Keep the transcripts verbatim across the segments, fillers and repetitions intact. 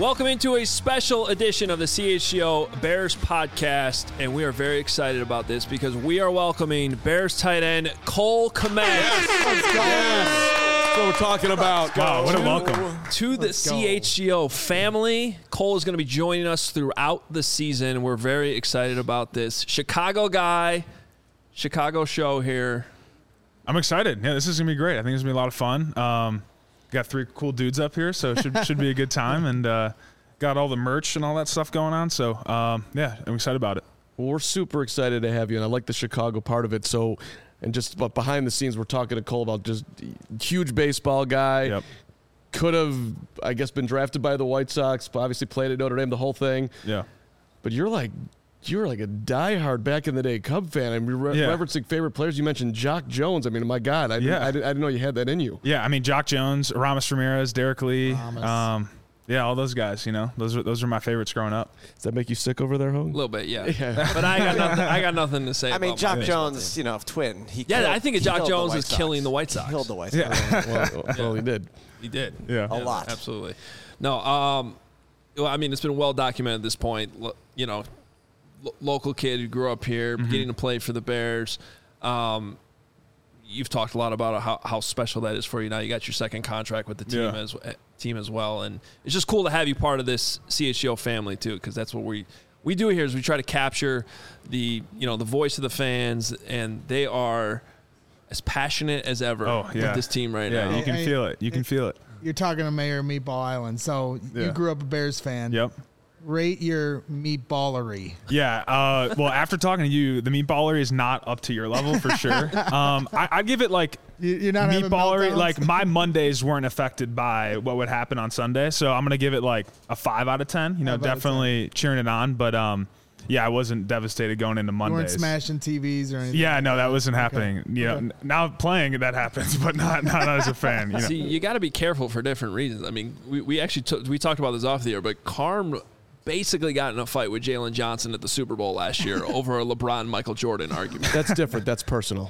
Welcome into a special edition of the C H G O Bears podcast, and we are very excited about this because we are welcoming Bears tight end Cole Kmet. Yes. Let's go. Yes. That's what we're talking about. Wow, what a welcome. To the C H G O family. Cole is going to be joining us throughout the season. We're very excited about this. Chicago guy, Chicago show here. I'm excited. Yeah, this is going to be great. I think it's going to be a lot of fun. Um, got three cool dudes up here, so it should, should be a good time. And uh, got all the merch and all that stuff going on. So, um, yeah, I'm excited about it. Well, we're super excited to have you, and I like the Chicago part of it. So, and just but behind the scenes, we're talking to Cole about just huge baseball guy. Yep. Could have, I guess, been drafted by the White Sox, but obviously played at Notre Dame, the whole thing. Yeah. But you're like, you're like a diehard back in the day Cub fan. I mean, re- yeah. referencing favorite players. You mentioned Jock Jones. I mean, my God, I, yeah. didn't, I, didn't, I didn't know you had that in you. Yeah, I mean, Jock Jones, Aramis Ramirez, Derek Lee. Um, yeah, all those guys, you know, those are, those are my favorites growing up. Does that make you sick over there, Hogue? A little bit, yeah. yeah. But I got nothing, I got nothing to say I about mean, Jock my Jones, you know, twin. He yeah, killed, I think Jock Jones is Sox. killing the White Sox. He killed the White Sox. Yeah. well, well, he did. He did. Yeah. A yeah, lot. Absolutely. No, um, well, I mean, it's been well documented at this point. You know, lo- local kid who grew up here, Mm-hmm. getting to play for the Bears. Um, you've talked a lot about how, how special that is for you. Now you got your second contract with the team Yeah. as team as well, and it's just cool to have you part of this C H G O family too, because that's what we we do here is we try to capture the you know the voice of the fans, and they are as passionate as ever Oh, yeah. with this team right Yeah, now. you can Hey, feel it. You can feel it. You're talking to Mayor Meatball Island, so Yeah. you grew up a Bears fan. Yep. Rate your meatballery. Yeah. Uh, well, after talking to you, the meatballery is not up to your level for sure. Um, I, I'd give it like You, you're not having meatballery. meltdowns? Like my Mondays weren't affected by what would happen on Sunday, so I'm gonna give it like a five out of ten. You know, Five out of definitely cheering it on, but um, yeah, I wasn't devastated going into You weren't Mondays. smashing T Vs or anything. Yeah, no, that wasn't happening. Okay. You know, Okay. n- now playing that happens, but not not as a fan. You know. See, you got to be careful for different reasons. I mean, we, we actually t- we talked about this off the air, but Carm basically got in a fight with Jalen Johnson at the Super Bowl last year over a LeBron Michael Jordan argument. That's different. That's personal.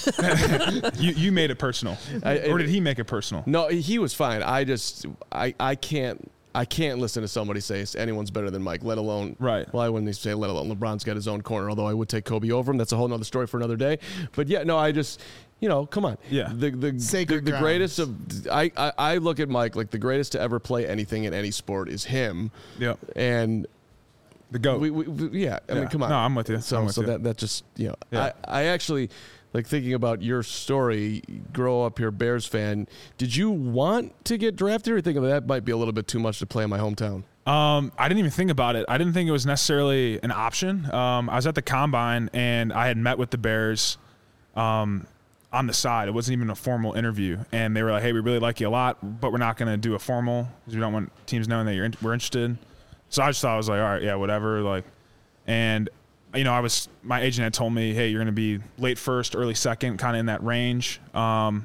you you made it personal, I- or did he make it personal? No, he was fine. I just, I, I can't, I can't listen to somebody say anyone's better than Mike, let alone, Right. Well, I wouldn't even say let alone LeBron's got his own corner, although I would take Kobe over him. That's a whole nother story for another day. But yeah, no, I just, you know, come on. Yeah. The the, Sacred the, the greatest grounds. of, I, I, I look at Mike like the greatest to ever play anything in any sport is him. Yep. And The goat. we, we, we yeah, I Yeah. mean, come on. No, I'm with you. So, I'm with so you. that that just you know, Yeah. I, I actually like thinking about your story. Grow up here, Bears fan. Did you want to get drafted, or you think that might be a little bit too much to play in my hometown? Um, I didn't even think about it. I didn't think it was necessarily an option. Um, I was at the combine and I had met with the Bears, um, on the side. It wasn't even a formal interview, and they were like, "Hey, we really like you a lot, but we're not going to do a formal because we don't want teams knowing that you're in- we're interested." So I just thought I was like, "All right, yeah, whatever." Like, and you know, I was my agent had told me, "Hey, you're going to be late first, early second, kind of in that range." Um,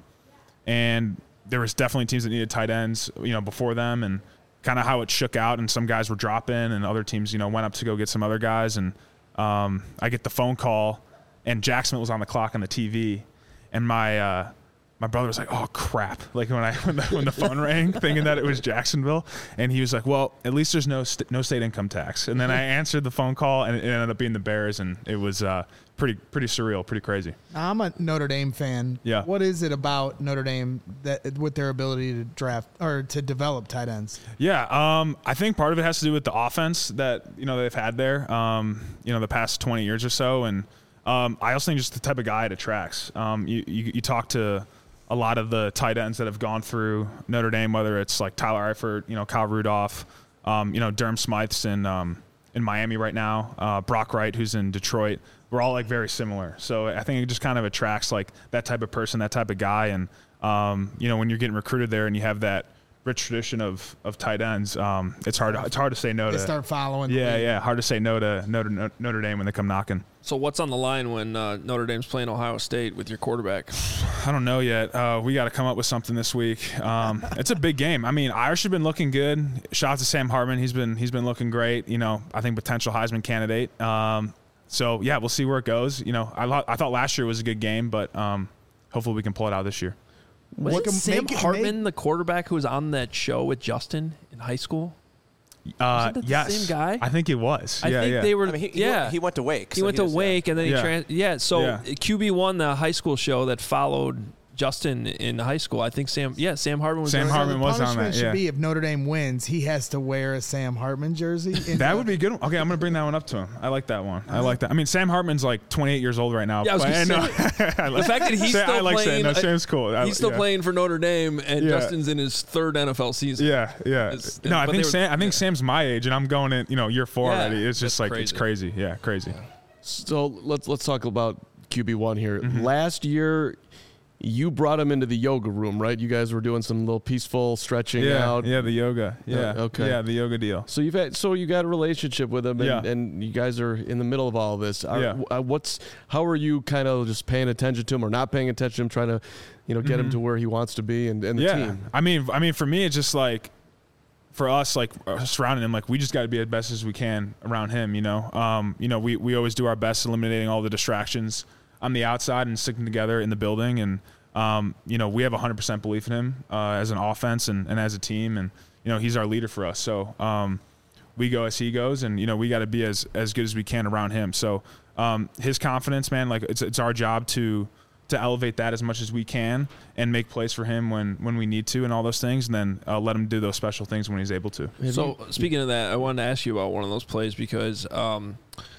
and there was definitely teams that needed tight ends, you know, before them, and kind of how it shook out, and some guys were dropping, and other teams, you know, went up to go get some other guys, and um, I get the phone call, and Jack Smith was on the clock on the T V, and my uh, my brother was like, "Oh crap!" Like when I when the, when the phone rang, thinking that it was Jacksonville, and he was like, "Well, at least there's no st- no state income tax." And then I answered the phone call, and it ended up being the Bears, and it was uh, pretty pretty surreal, pretty crazy. I'm a Notre Dame fan. Yeah. What is it about Notre Dame that with their ability to draft or to develop tight ends? Yeah, um, I think part of it has to do with the offense that you know they've had there, um, you know, the past twenty years or so, and um, I also think just the type of guy it attracts. Um, you, you you talk to a lot of the tight ends that have gone through Notre Dame, whether it's like Tyler Eifert, you know, Kyle Rudolph, um, you know, Durham Smythe's in um, in Miami right now, uh, Brock Wright, who's in Detroit. We're all like very similar, so I think it just kind of attracts like that type of person, that type of guy, and um, you know, when you're getting recruited there and you have that rich tradition of of tight ends, um, it's hard to, it's hard to say no They to. start following. the Yeah, lead. yeah, hard to say no to Notre, Notre Dame when they come knocking. So what's on the line when uh, Notre Dame's playing Ohio State with your quarterback? I don't know yet. Uh, we got to come up with something this week. Um, it's a big game. I mean, Irish have been looking good. Shout out to Sam Hartman. He's been he's been looking great. You know, I think potential Heisman candidate. Um, so yeah, we'll see where it goes. You know, I lo- I thought last year was a good game, but um, hopefully we can pull it out this year. Wasn't Make 'em- Sam make it- Hartman make- the quarterback who was on that show with Justin in high school? Uh, Wasn't that the yes, same guy? I think it was. I yeah, think yeah. they were. I mean, he, he yeah, went, he went to Wake. He so went to does- Wake, and then he Yeah. trans. Yeah, so Yeah. Q B one, the high school show that followed Justin in high school. I think Sam. Yeah, Sam Hartman was. Sam there. Hartman the was on punishment that, should yeah. be if Notre Dame wins, he has to wear a Sam Hartman jersey. in That the- would be good. Okay, I'm gonna bring that one up to him. I like that one. I like that. I mean, Sam Hartman's like twenty-eight years old right now. Yeah, I was but gonna know- The fact that he's Sam- still I like playing. Sam. No, Sam's cool. I- He's still yeah. playing for Notre Dame, and Yeah. Justin's in his third N F L season. Yeah, yeah. It's- No, I but think they were- Sam. I think yeah. Sam's my age, and I'm going in. You know, year four Yeah, already. It's just that's like it's crazy. crazy. Yeah, crazy. So let's let's talk about Q B one here. Mm-hmm. Last year, you brought him into the yoga room, right? You guys were doing some little peaceful stretching Yeah, out. yeah. The yoga. Yeah. okay. Yeah, the yoga deal. So you've had so you got a relationship with him, and, Yeah. and you guys are in the middle of all of this. Are, Yeah. uh, what's how are you kind of just paying attention to him or not paying attention to him, trying to, you know, get him to where he wants to be and, and the Mm-hmm. yeah. team? I mean, I mean, for me, it's just like, for us, like uh, surrounding him, like we just got to be as best as we can around him. You know, um, you know, we we always do our best eliminating all the distractions on the outside and sticking together in the building. And um, you know, we have one hundred percent belief in him uh, as an offense and, and as a team. And you know, he's our leader for us. So um, we go as he goes, and you know, we got to be as as good as we can around him. So um, his confidence, man, like it's it's our job to. to elevate that as much as we can and make plays for him when, when we need to and all those things, and then uh, let him do those special things when he's able to. So speaking of that, I wanted to ask you about one of those plays because um,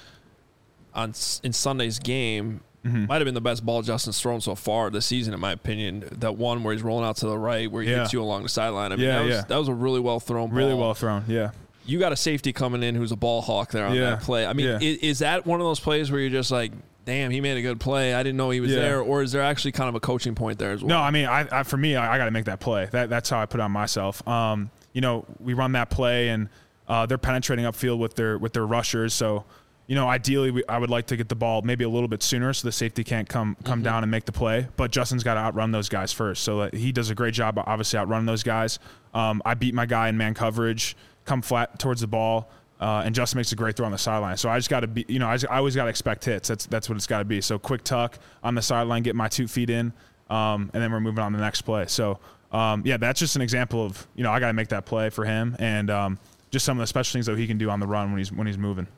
on S- in Sunday's game, Mm-hmm. might have been the best ball Justin's thrown so far this season, in my opinion. That one where he's rolling out to the right, where he Yeah. hits you along the sideline. I mean, Yeah, that was yeah. that was a really well thrown ball. Really well thrown, yeah. You got a safety coming in who's a ball hawk there on Yeah. that play. I mean, Yeah. is, is that one of those plays where you're just like, damn, he made a good play. I didn't know he was Yeah. there. Or is there actually kind of a coaching point there as well? No, I mean, I, I for me, I, I got to make that play. That that's how I put it on myself. Um, you know, we run that play, and uh, they're penetrating upfield with their with their rushers. So, you know, ideally, we, I would like to get the ball maybe a little bit sooner, so the safety can't come come Mm-hmm. down and make the play. But Justin's got to outrun those guys first. So uh, he does a great job, obviously, outrunning those guys. Um, I beat my guy in man coverage, come flat towards the ball. Uh, and Justin makes a great throw on the sideline. So I just got to be, you know, I, just, I always got to expect hits. That's that's what it's got to be. So quick tuck on the sideline, get my two feet in, um, and then we're moving on to the next play. So, um, yeah, that's just an example of, you know, I got to make that play for him, and um, just some of the special things that he can do on the run when he's when he's moving.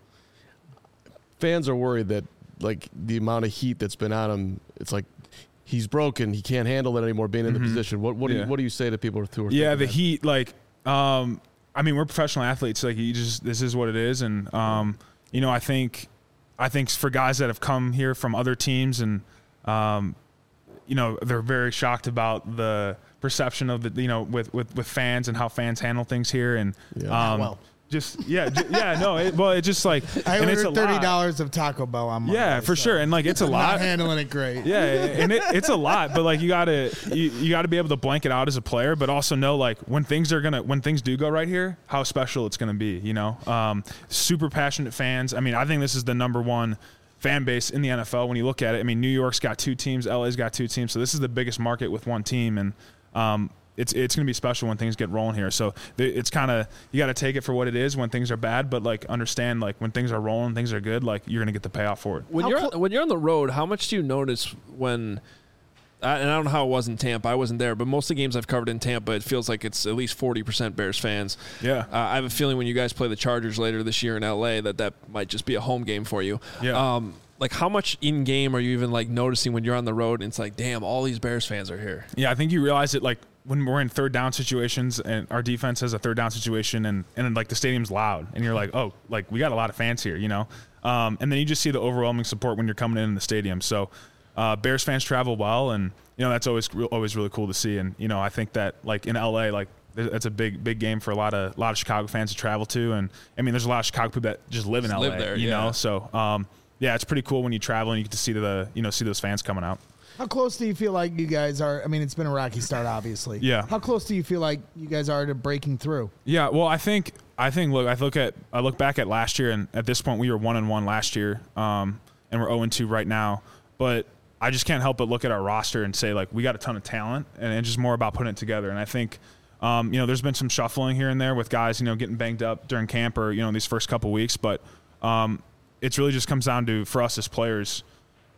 Fans are worried that like the amount of heat that's been on him, it's like he's broken. He can't handle it anymore being in the position. What what do Yeah. you what do you say to people who are Yeah, thinking the that? heat, like, um, I mean, we're professional athletes. Like, you just this is what it is, and um, you know, I think, I think for guys that have come here from other teams, and um, you know, they're very shocked about the perception of the, you know, with with, with fans and how fans handle things here, and Yeah. um, well. just yeah, ju- yeah, no, it, well, it just like, I and it's a ordered thirty lot. dollars of Taco Bell on Monday. Yeah, for so sure, and like it's a I'm lot. Not handling it great. Yeah, and it, it's a lot, but like you gotta you, you gotta be able to blank it out as a player, but also know like when things are gonna when things do go right here, how special it's gonna be. You know, um, super passionate fans. I mean, I think this is the number one fan base in the N F L when you look at it. I mean, New York's got two teams, L A's got two teams, so this is the biggest market with one team, and um, it's it's gonna be special when things get rolling here. So th- it's kind of you got to take it for what it is when things are bad, but like understand like when things are rolling, things are good, like you're gonna get the payoff for it. When How you're clo- when you're on the road, how much do you notice when? I, and I don't know how it was in Tampa. I wasn't there, but most of the games I've covered in Tampa, it feels like it's at least forty percent Bears fans. Yeah. Uh, I have a feeling when you guys play the Chargers later this year in L A, that that might just be a home game for you. Yeah. Um, like how much in game are you even like noticing when you're on the road? And it's like, damn, all these Bears fans are here. Yeah, I think you realize it like when we're in third down situations and our defense has a third down situation and, and then, like the stadium's loud and you're like, oh, like we got a lot of fans here, you know? Um, and then you just see the overwhelming support when you're coming in in the stadium. So uh, Bears fans travel well, and, you know, that's always re- always really cool to see. And, you know, I think that like in L A, like that's a big, big game for a lot of, a lot of Chicago fans to travel to. And I mean, there's a lot of Chicago people that just live in Just L A, live there, you yeah. know? So um, yeah, it's pretty cool when you travel and you get to see the, you know, see those fans coming out. How close do you feel like you guys are? I mean, it's been a rocky start, obviously. Yeah. How close do you feel like you guys are to breaking through? Yeah, well, I think I think look, I look at I look back at last year, and at this point we were one and one last year, um, and we're zero and two right now. But I just can't help but look at our roster and say like we got a ton of talent, and it's just more about putting it together. And I think um, you know there's been some shuffling here and there with guys you know getting banged up during camp or you know these first couple weeks, but um, it's really just comes down to for us as players.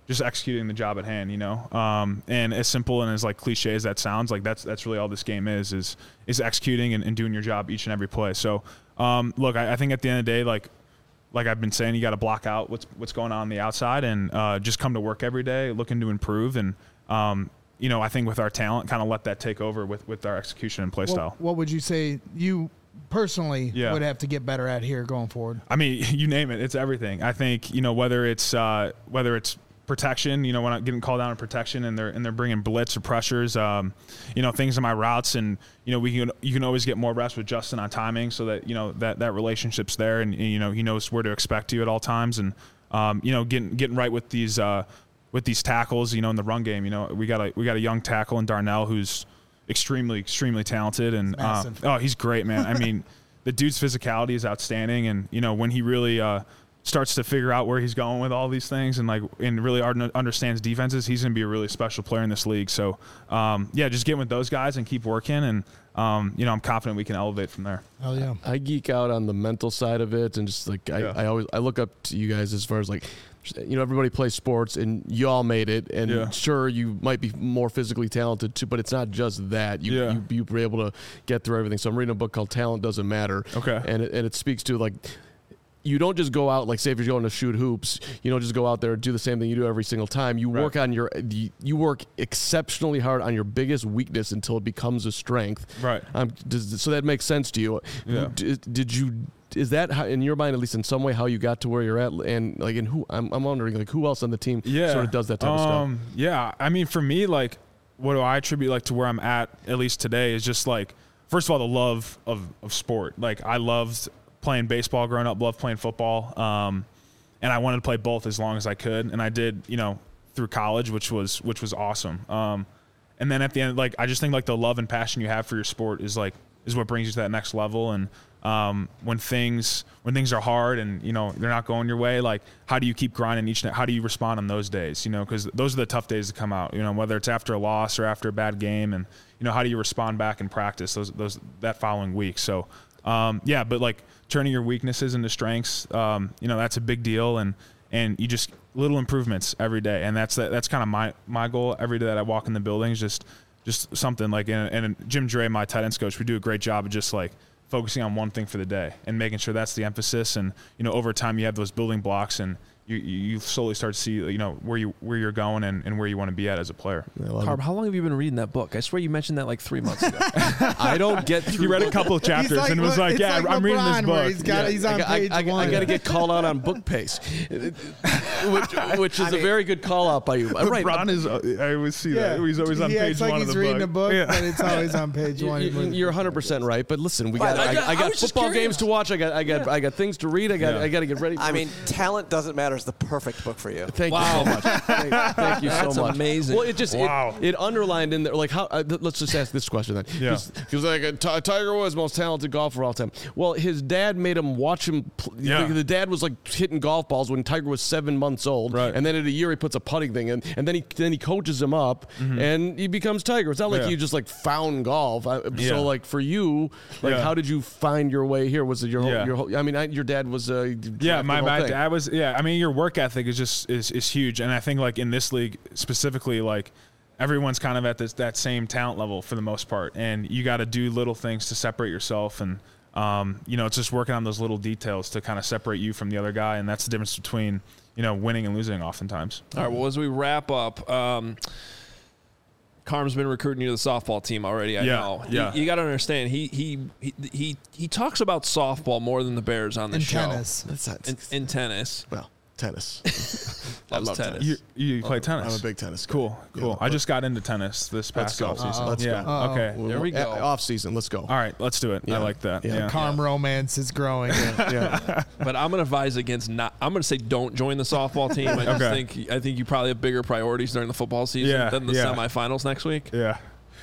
just executing the job at hand, you know. Um, and as simple and as like cliche as that sounds, like that's that's really all this game is is is executing and, and doing your job each and every play. So um, look, I, I think at the end of the day, like like I've been saying, you got to block out what's what's going on on the outside and uh, just come to work every day, looking to improve. And um, you know, I think with our talent, kind of let that take over with with our execution and play What, style. what would you say you personally Yeah. would have to get better at here going forward? I mean, you name it, it's everything. I think, you know, whether it's uh, whether it's protection, you know, when I'm getting called down in protection and they're and they're bringing blitz or pressures, um, you know, things in my routes, and you know, we can you can always get more reps with Justin on timing, so that you know that that relationship's there, and you know he knows where to expect you at all times, and um, you know, getting getting right with these uh, with these tackles, you know, in the run game. You know, we got a we got a young tackle in Darnell who's extremely extremely talented, and uh, massive. oh, he's great, man. I mean, the dude's physicality is outstanding, and you know, when he really uh, starts to figure out where he's going with all these things and like and really understands defenses, he's going to be a really special player in this league. So um, yeah, just get with those guys and keep working, and um, you know, I'm confident we can elevate from there. Hell yeah. I geek out on the mental side of it, and just like I, Yeah. I always I look up to you guys as far as like, you know, everybody plays sports and you all made it, and Yeah. sure you might be more physically talented too, but it's not just that. You, Yeah. you you were able to get through everything. So I'm reading a book called Talent Doesn't Matter. Okay. and it, and it speaks to like, you don't just go out, like say if you're going to shoot hoops, you don't just go out there and do the same thing you do every single time. You Right. work on your, you work exceptionally hard on your biggest weakness until it becomes a strength. Right. Um, does, so that makes sense to you. Yeah. Did, did you, is that how, in your mind, at least in some way, how you got to where you're at? And like, and who, I'm, I'm wondering like who else on the team Yeah. sort of does that type of stuff? Um, yeah. I mean, for me, like, what do I attribute like to where I'm at, at least today, is just like, first of all, the love of, of sport. Like, I loved playing baseball growing up, loved playing football. Um, and I wanted to play both as long as I could. And I did, you know, through college, which was, which was awesome. Um, and then at the end, like, I just think like the love and passion you have for your sport is like, is what brings you to that next level. And, um, when things, when things are hard and, you know, they're not going your way, like, how do you keep grinding each day? How do you respond on those days? You know, cause those are the tough days to come out, you know, whether it's after a loss or after a bad game, and, you know, how do you respond back in practice those, those, that following week? So, um, yeah, but like turning your weaknesses into strengths, um, you know, that's a big deal. And, and you just little improvements every day. And that's, that's kind of my, my goal every day that I walk in the building is just, just something like, and, and Jim Dre, my tight ends coach, we do a great job of just like focusing on one thing for the day and making sure that's the emphasis. And, you know, over time you have those building blocks, and you, you slowly start to see, you know, where you, where you're going and, and where you want to be at as a player. Carb, how long have you been reading that book? I swear you mentioned that like three months ago. I don't get through. He read a couple of chapters like and was Le- like, it's yeah, like I'm reading this LeBron, where book. he's got- Yeah. he's on I, page I, I, one. I got to get called out on book pace, which, which is a very good call out by you. Right. LeBron is, uh, I always see that. He's always on he page acts like one he's of the reading book. a book, Yeah. but it's always on page one. You- you- You're one hundred percent right, but listen, we got Right, I, I got, I got I was just football curious. games to watch. I got I got I got things to read. I got Yeah. I got to get ready. For I mean, Talent Doesn't Matter is the perfect book for you. Thank Wow. you so much. Thank, thank you That's so much. amazing. Well, it just Wow. it, it underlined in there like how. Uh, th- let's just ask this question then. Yeah. Because like uh, Ti- Tiger Woods, most talented golfer of all time. Well, his dad made him watch him. Pl- Yeah. The, the dad was like hitting golf balls when Tiger was seven months old, Right. and then at a year he puts a putting thing in, and then he then he coaches him up, and he becomes Tiger. It's not like Mm-hmm. Yeah. you just like found golf. I, Yeah. So like for you, like Yeah. how did you find your way here? Was it your whole, Yeah. your whole? I mean, I, your dad was uh, Yeah, my, the whole my thing. dad was. Yeah, I mean, your work ethic is just is, is huge, and I think like in this league specifically, like everyone's kind of at this that same talent level for the most part, and you got to do little things to separate yourself, and um, you know, it's just working on those little details to kind of separate you from the other guy, and that's the difference between you know winning and losing oftentimes. All right. Well, as we wrap up, um, Carm's been recruiting you to the softball team already. I Yeah, know. yeah. You, you got to understand. He, he he he he talks about softball more than the Bears on the in show. tennis. That's not, In, in tennis, well, tennis. loves love tennis. tennis. You, you play tennis. I'm a big tennis guy. Cool, cool. Yeah. I just got into tennis this Let's past go. off season. Let's yeah. go. Uh-oh. Okay. There we go. Off season. Let's go. All right. Let's do it. Yeah. I like that. Yeah. Yeah. Calm romance is growing. Yeah. But I'm gonna advise against not. I'm gonna say don't join the softball team. I just Okay. think I think you probably have bigger priorities during the football season Yeah, than the yeah. semifinals next week. Yeah.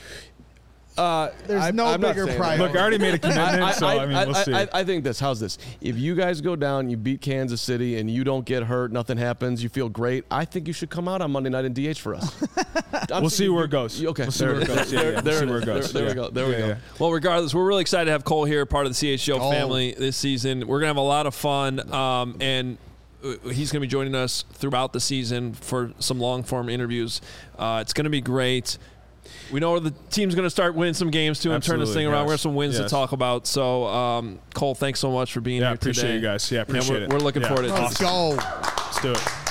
Uh, There's I'm- no I'm not bigger saying that. priority. Look, I already made a commitment, so I, mean, we'll see. I, I think this. How's this? If you guys go down, you beat Kansas City, and you don't get hurt, nothing happens, you feel great. I think you should come out on Monday night in D H for us. I'm We'll see thinking- where it goes. Okay, We'll see there, where it goes. Yeah, there, yeah. We'll there see it where is. it goes. There, there Yeah. we go. There we Yeah, go. yeah. Well, regardless, we're really excited to have Cole here, part of the C H G O Oh. family this season. We're gonna have a lot of fun, um, and he's going to be joining us throughout the season for some long-form interviews. Uh, it's going to be great. We know the team's going to start winning some games, too, and turn this Absolutely, thing around. yes. We have some wins Yes. to talk about. So, um, Cole, thanks so much for being Yeah, here appreciate today. you guys. Yeah, appreciate we're, it. We're looking Yeah. forward to it. Let's go. Let's do it.